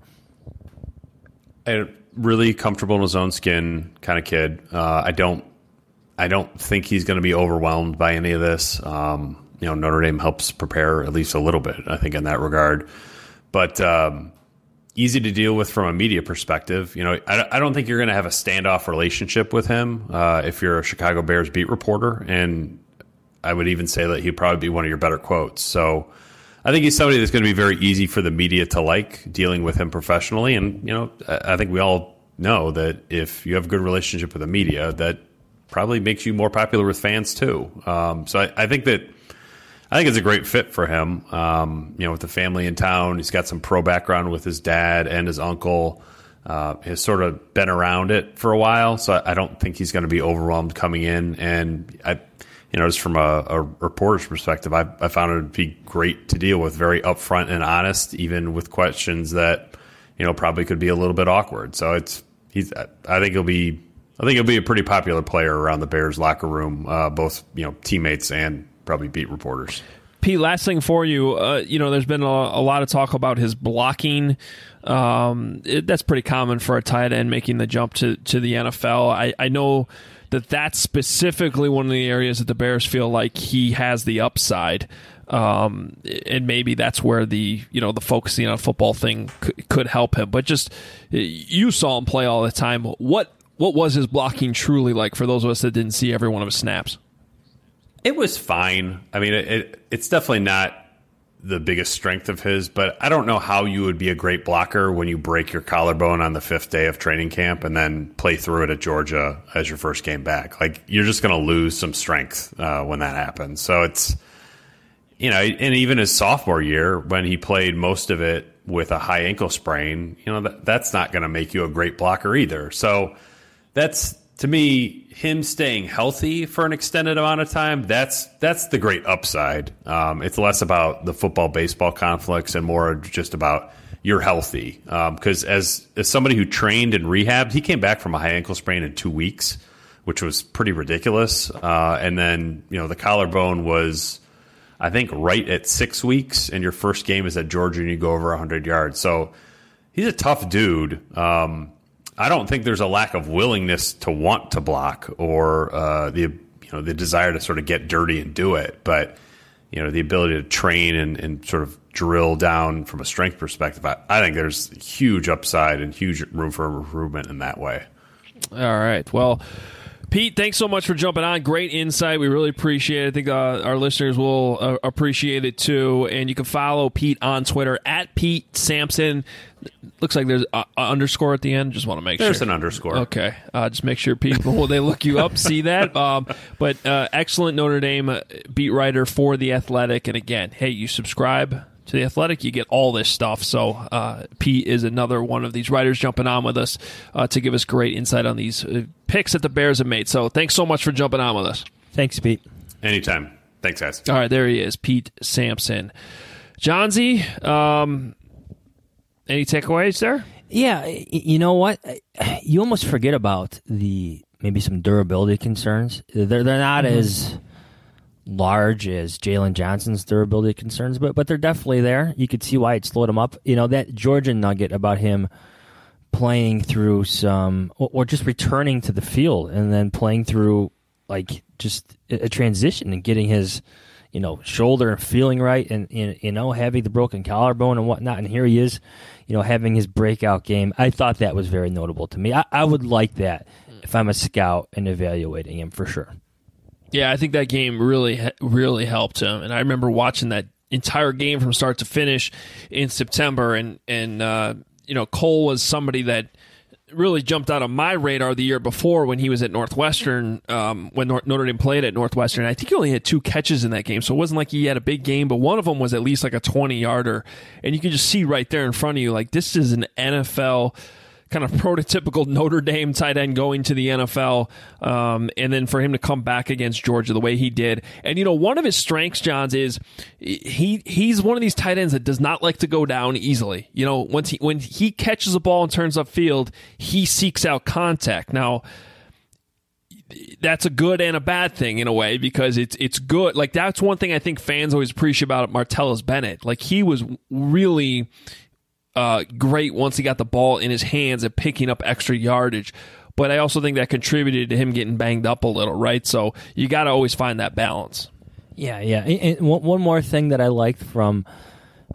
I, really comfortable in his own skin kind of kid. Uh, I don't, I don't think he's going to be overwhelmed by any of this. Um, you know, Notre Dame helps prepare at least a little bit, I think, in that regard. But um, easy to deal with from a media perspective. You know, I, I don't think you're going to have a standoff relationship with him uh, if you're a Chicago Bears beat reporter, and I would even say that he'd probably be one of your better quotes. So I think he's somebody that's going to be very easy for the media to like, dealing with him professionally. And, you know, I, I think we all know that if you have a good relationship with the media, that probably makes you more popular with fans too. Um, so I, I think that I think it's a great fit for him. Um, you know, with the family in town, he's got some pro background with his dad and his uncle. Uh, has sort of been around it for a while, so I, I don't think he's going to be overwhelmed coming in. And I, you know, just from a, a reporter's perspective, I, I found it to be great to deal with, very upfront and honest, even with questions that, you know, probably could be a little bit awkward. So it's he's. I think he'll be. I think he'll be a pretty popular player around the Bears locker room, uh, both you know teammates and probably beat reporters. Pete, last thing for you, uh, you know, there's been a, a lot of talk about his blocking. Um, it, that's pretty common for a tight end making the jump to, to the N F L. I, I know that that's specifically one of the areas that the Bears feel like he has the upside. Um, and maybe that's where the, you know, the focusing on football thing could, could help him. But just, you saw him play all the time. What, what was his blocking truly like for those of us that didn't see every one of his snaps? It was fine. I mean, it, it, it's definitely not the biggest strength of his, but I don't know how you would be a great blocker when you break your collarbone on the fifth day of training camp and then play through it at Georgia as your first game back. Like, you're just going to lose some strength uh, when that happens. So it's, you know, and even his sophomore year when he played most of it with a high ankle sprain, you know, that, that's not going to make you a great blocker either. So that's, to me, him staying healthy for an extended amount of time, that's that's the great upside. Um, it's less about the football-baseball conflicts and more just about you're healthy. Because um, as, as somebody who trained and rehabbed, he came back from a high ankle sprain in two weeks, which was pretty ridiculous. Uh, and then, you know, the collarbone was, I think, right at six weeks, and your first game is at Georgia and you go over one hundred yards. So he's a tough dude. Um I don't think there's a lack of willingness to want to block or uh, the you know the desire to sort of get dirty and do it, but you know the ability to train and, and sort of drill down from a strength perspective. I, I think there's huge upside and huge room for improvement in that way. All right, well, Pete, thanks so much for jumping on. Great insight. We really appreciate it. I think uh, our listeners will uh, appreciate it too. And you can follow Pete on Twitter at Pete Sampson. Looks like there's an underscore at the end. Just want to make there's sure. There's an underscore. Okay. Uh, just make sure people, when they look you up, see that. Um, but uh, excellent Notre Dame beat writer for The Athletic. And again, hey, you subscribe to The Athletic, you get all this stuff. So uh, Pete is another one of these writers jumping on with us uh, to give us great insight on these uh, picks that the Bears have made. So thanks so much for jumping on with us. Thanks, Pete. Anytime. Thanks, guys. All right, there he is, Pete Sampson. Johnsy, um, any takeaways there? Yeah, you know what? You almost forget about the maybe some durability concerns. They're they're not mm-hmm. as large as Jalen Johnson's durability concerns, but but they're definitely there. You could see why it slowed him up. You know, that Georgia nugget about him playing through some, or, or just returning to the field and then playing through like just a, a transition and getting his, you know, shoulder feeling right and, you know, having the broken collarbone and whatnot. And here he is, you know, having his breakout game. I thought that was very notable to me. I, I would like that if I'm a scout and evaluating him for sure. Yeah, I think that game really, really helped him. And I remember watching that entire game from start to finish in September. And, and uh, you know, Cole was somebody that really jumped out of my radar the year before when he was at Northwestern, um, when Notre Dame played at Northwestern. I think he only had two catches in that game, so it wasn't like he had a big game, but one of them was at least like a twenty-yarder. And you can just see right there in front of you, like, this is an N F L kind of prototypical Notre Dame tight end going to the N F L, um, and then for him to come back against Georgia the way he did. And, you know, one of his strengths, Johns, is he he's one of these tight ends that does not like to go down easily. You know, once he when he catches a ball and turns upfield, he seeks out contact. Now, that's a good and a bad thing in a way, because it's it's good. Like, that's one thing I think fans always appreciate about Martellus Bennett. Like, he was really Uh, great once he got the ball in his hands and picking up extra yardage. But I also think that contributed to him getting banged up a little, right? So you got to always find that balance. Yeah, yeah. And one more thing that I liked from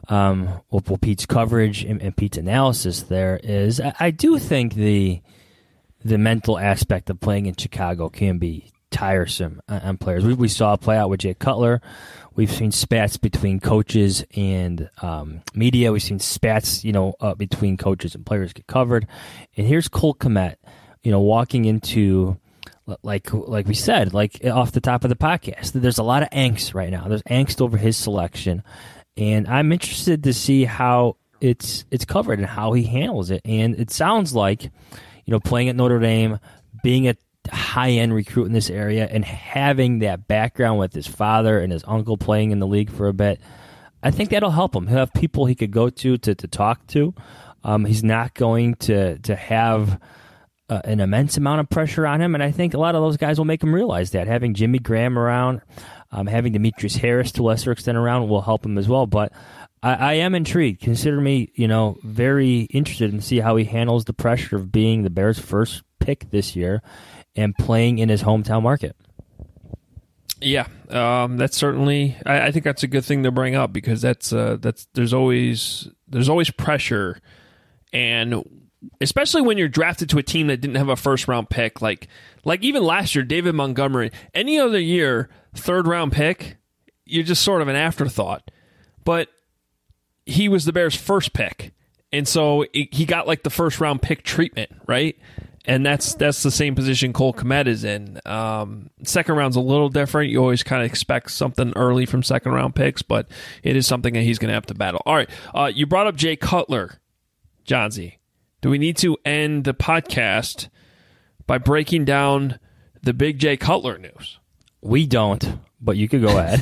um, well, well, Pete's coverage and, and Pete's analysis there is, I, I do think the the mental aspect of playing in Chicago can be tiresome on, on players. We, we saw it play out with Jay Cutler. We've seen spats between coaches and um, media. We've seen spats, you know, uh, between coaches and players get covered. And here's Cole Kmet, you know, walking into, like like we said, like off the top of the podcast, there's a lot of angst right now. There's angst over his selection. And I'm interested to see how it's it's covered and how he handles it. And it sounds like, you know, playing at Notre Dame, being a high-end recruit in this area, and having that background with his father and his uncle playing in the league for a bit, I think that'll help him. He'll have people he could go to to, to talk to. Um, he's not going to to have uh, an immense amount of pressure on him, and I think a lot of those guys will make him realize that. Having Jimmy Graham around, um, having Demetrius Harris to a lesser extent around will help him as well. But I, I am intrigued. Consider me, you know, very interested in see how he handles the pressure of being the Bears' first pick this year and playing in his hometown market. Yeah, um, that's certainly. I, I think that's a good thing to bring up because that's uh, that's there's always there's always pressure, and especially when you're drafted to a team that didn't have a first round pick, like like even last year, David Montgomery. Any other year, third round pick, you're just sort of an afterthought. But he was the Bears' first pick, and so it, he got like the first round pick treatment, right? And that's that's the same position Cole Kmet is in. Um, second round's a little different. You always kind of expect something early from second round picks, but it is something that he's going to have to battle. All right, uh, you brought up Jay Cutler, Johnsy. Do we need to end the podcast by breaking down the big Jay Cutler news? We don't, but you could go ahead.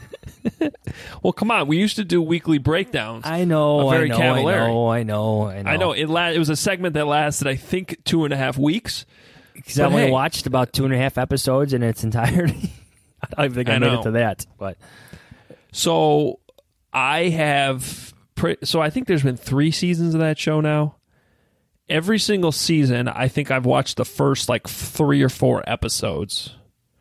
Well, come on. We used to do weekly breakdowns. I know, very I know, Cavallari. I know, I know, I know. I know. It, la- it was a segment that lasted, I think, two and a half weeks. Because I only hey, watched about two and a half episodes in its entirety. I don't even think I, I made it to that. But so I have. Pre- so I think there's been three seasons of that show now. Every single season, I think I've watched the first like three or four episodes,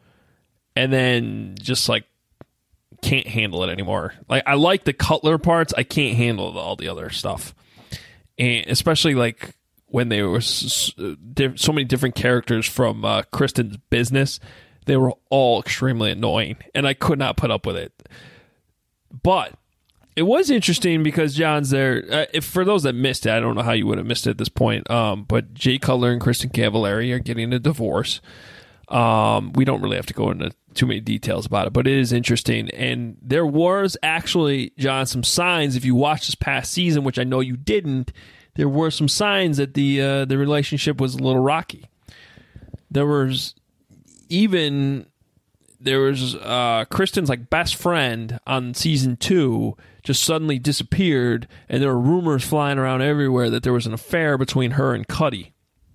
and then just like. Can't handle it anymore. Like I like the Cutler parts, I can't handle all the other stuff, and especially like when there was so many different characters from uh, Kristen's business, they were all extremely annoying, and I could not put up with it. But it was interesting because John's there. Uh, if for those that missed it, I don't know how you would have missed it at this point. Um, but Jay Cutler and Kristen Cavallari are getting a divorce. Um, we don't really have to go into too many details about it, but it is interesting. And there was actually, John, some signs, if you watched this past season, which I know you didn't, there were some signs that the uh, the relationship was a little rocky. There was even, there was uh, Kristen's like best friend on season two just suddenly disappeared, and there were rumors flying around everywhere that there was an affair between her and Cuddy.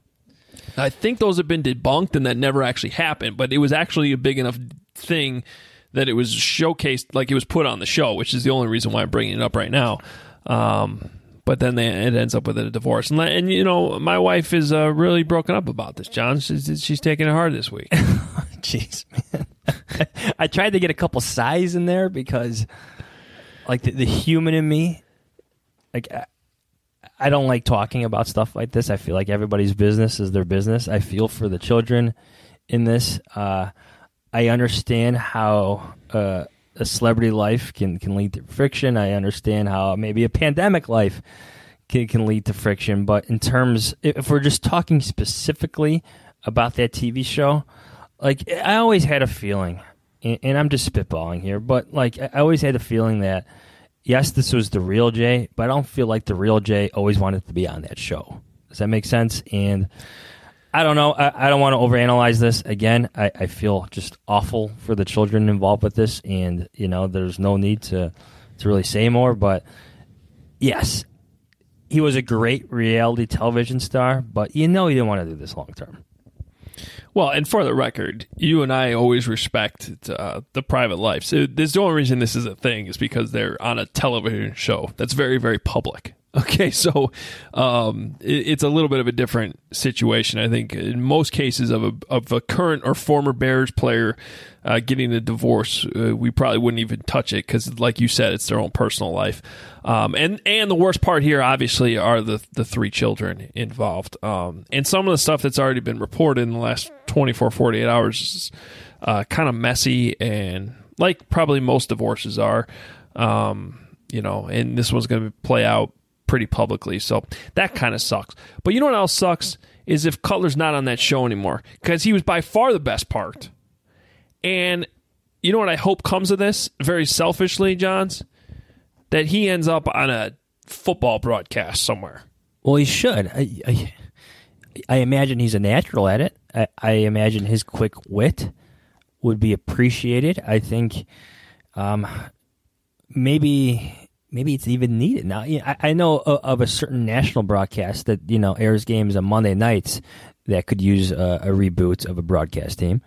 I think those have been debunked and that never actually happened, but it was actually a big enough thing that it was showcased, like it was put on the show, which is the only reason why I'm bringing it up right now. Um, but then they, it ends up with a divorce. And, and you know, my wife is uh, really broken up about this, John. She's, she's taking it hard this week. Jeez, man. I tried to get a couple sighs in there because, like, the, the human in me, like, I, I don't like talking about stuff like this. I feel like everybody's business is their business. I feel for the children in this. Uh, I understand how uh, a celebrity life can, can lead to friction. I understand how maybe a pandemic life can, can lead to friction. But in terms, if we're just talking specifically about that T V show, like I always had a feeling, and, and I'm just spitballing here, but like I always had a feeling that yes, this was the real Jay, but I don't feel like the real Jay always wanted to be on that show. Does that make sense? And I don't know. I, I don't want to overanalyze this. Again, I, I feel just awful for the children involved with this, and you know, there's no need to to really say more. But yes, he was a great reality television star, but you know, he didn't want to do this long term. Well, and for the record, you and I always respect uh, the private life. So this, the only reason this is a thing is because they're on a television show that's very, very public. Okay, so um, it, it's a little bit of a different situation. I think in most cases of a of a current or former Bears player uh, getting a divorce, uh, we probably wouldn't even touch it because, like you said, it's their own personal life. Um, and and the worst part here, obviously, are the the three children involved. Um, and some of the stuff that's already been reported in the last twenty-four, forty-eight hours is uh, kind of messy, and like probably most divorces are. Um, you know, and this one's going to play out pretty publicly, so that kind of sucks. But you know what else sucks is if Cutler's not on that show anymore, because he was by far the best part. And you know what I hope comes of this, very selfishly, Johns? That he ends up on a football broadcast somewhere. Well, he should. I, I, I imagine he's a natural at it. I, I imagine his quick wit would be appreciated. I think um, maybe... Maybe it's even needed now. I, I know of a certain national broadcast that you know airs games on Monday nights that could use a, a reboot of a broadcast team.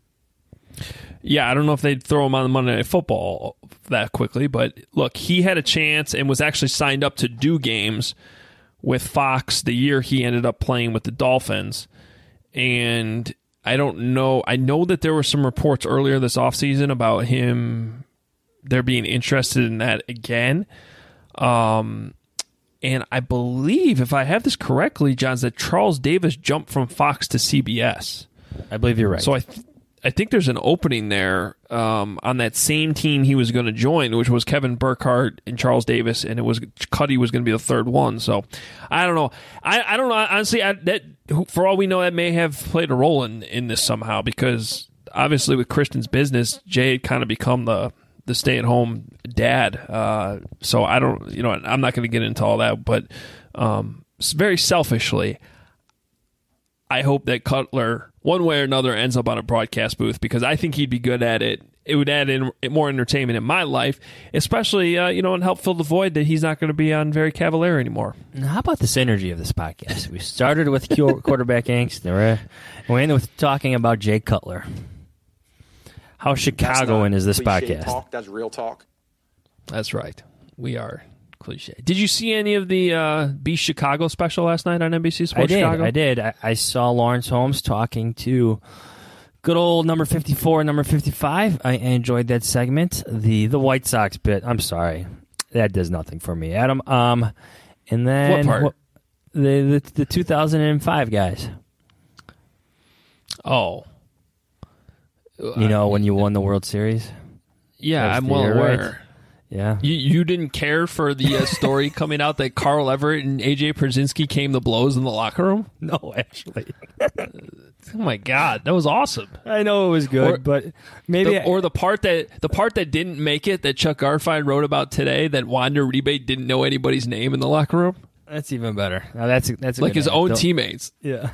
Yeah, I don't know if they'd throw him on the Monday Night Football that quickly, but look, he had a chance and was actually signed up to do games with Fox the year he ended up playing with the Dolphins. And I don't know. I know that there were some reports earlier this offseason about him. They're being interested in that again. Um, and I believe, if I have this correctly, Johns, that Charles Davis jumped from Fox to C B S. I believe you're right. So I th- I think there's an opening there um, on that same team he was going to join, which was Kevin Burkhardt and Charles Davis, and it was Cuddy was going to be the third one. So I don't know. I, I don't know. Honestly, I, that for all we know, that may have played a role in, in this somehow, because obviously with Christian's business, Jay had kind of become the the stay-at-home dad. Uh, so I don't, you know, I'm not going to get into all that, but um, very selfishly, I hope that Cutler, one way or another, ends up on a broadcast booth, because I think he'd be good at it. It would add in more entertainment in my life, especially, uh, you know, and help fill the void that he's not going to be on Very Cavalier anymore. Now, how about the synergy of this podcast? We started with quarterback angst, and we ended with talking about Jay Cutler. How Chicagoan is this podcast? Talk. That's real talk. That's right. We are cliche. Did you see any of the uh, Be Chicago special last night on N B C Sports I did, Chicago? I did. I, I saw Lawrence Holmes talking to good old number fifty-four and number fifty-five. I enjoyed that segment. The the White Sox bit, I'm sorry. That does nothing for me, Adam. Um, and then what part? What, the, the the two thousand five guys. Oh. You know, when you won the World Series? Yeah, That's I'm well year, aware. Right? Yeah. You you didn't care for the uh, story coming out that Carl Everett and A J Przynski came to blows in the locker room? No, actually. Oh, my God. That was awesome. I know it was good, or, but maybe... The, I, or the part that the part that didn't make it that Chuck Garfien wrote about today, that Wander Rebate didn't know anybody's name in the locker room? That's even better. Now that's that's a like his own Don't, teammates. Yeah.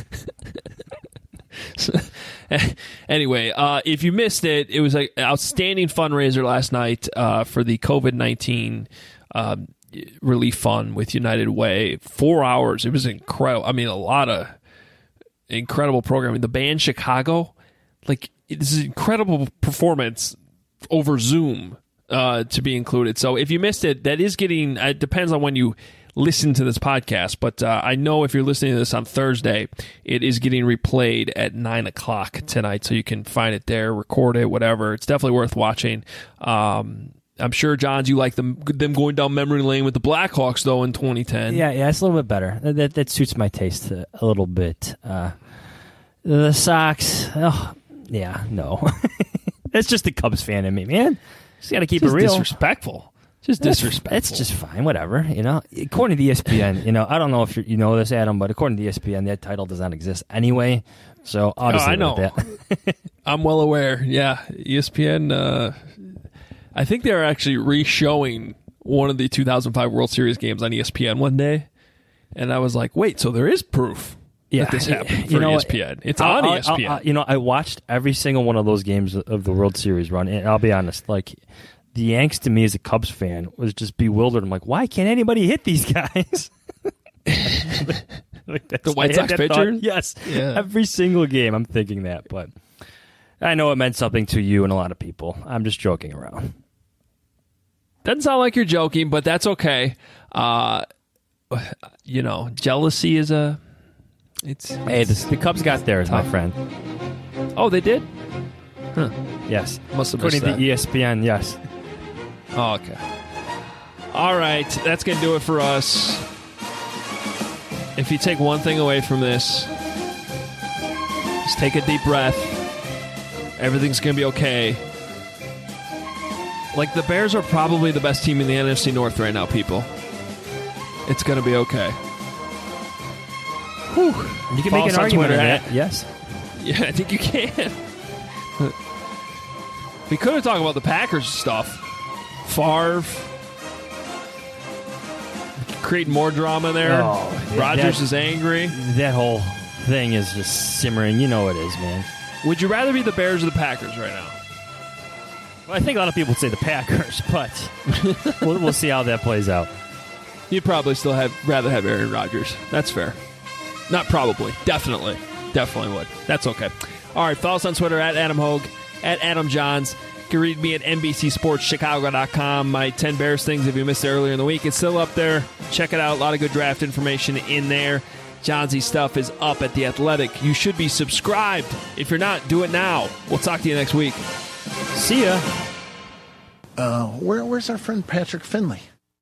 So, anyway, uh, if you missed it, it was an outstanding fundraiser last night uh, for the COVID nineteen uh, relief fund with United Way. Four hours. It was incredible. I mean, a lot of incredible programming. The band Chicago, like, this is an incredible performance over Zoom uh, to be included. So if you missed it, that is getting, it depends on when you listen to this podcast, but uh, I know if you're listening to this on Thursday, it is getting replayed at nine o'clock tonight, so you can find it there, record it, whatever. It's definitely worth watching. Um, I'm sure, Johns, you like them them going down memory lane with the Blackhawks, though, in twenty ten. Yeah, yeah, it's a little bit better. That that, that suits my taste a, a little bit. Uh, the Sox, oh, yeah, no. That's just the Cubs fan in me, man. Just got to keep just it real. Disrespectful. Just disrespectful. It's just fine, whatever. You know, according to E S P N, you know, I don't know if you know this, Adam, but according to E S P N, that title does not exist anyway. So I'll just oh, leave I know. it at that. I'm well aware. Yeah, E S P N. Uh, I think they're actually re-showing one of the two thousand five World Series games on E S P N one day, and I was like, wait, so there is proof yeah, that this happened for you know, E S P N. It's I'll, on I'll, E S P N. I'll, you know, I watched every single one of those games of the World Series run, and I'll be honest, like. The angst to me as a Cubs fan was just bewildered. I'm like, why can't anybody hit these guys? like the White Sox pitcher? Yes. Yeah. Every single game I'm thinking that. But I know it meant something to you and a lot of people. I'm just joking around. Doesn't sound like you're joking, but that's okay. Uh, you know, jealousy is a. It's hey, the, the Cubs got theirs, my friend. Oh, they did. Huh. Yes, must have according missed to that. E S P N. Yes. Oh, okay. All right, that's gonna do it for us. If you take one thing away from this, just take a deep breath. Everything's gonna be okay. Like, the Bears are probably the best team in the N F C North right now, people. It's going to be okay. Whew. You can Follow make us an on argument Twitter on at- that. Yes. Yeah, I think you can. We could have talked about the Packers stuff. Favre. Create more drama there. Oh, yeah, Rodgers that- is angry. That whole thing is just simmering. You know it is, man. Would you rather be the Bears or the Packers right now? Well, I think a lot of people would say the Packers, but we'll, we'll see how that plays out. You'd probably still have rather have Aaron Rodgers. That's fair. Not probably. Definitely. Definitely would. That's okay. All right. Follow us on Twitter at Adam Hogue, at Adam Johns. You can read me at N B C Sports Chicago dot com. My ten Bears things, if you missed it earlier in the week, it's still up there. Check it out. A lot of good draft information in there. Johnsy stuff is up at The Athletic. You should be subscribed. If you're not, do it now. We'll talk to you next week. See ya. Uh, where, where's our friend Patrick Finley?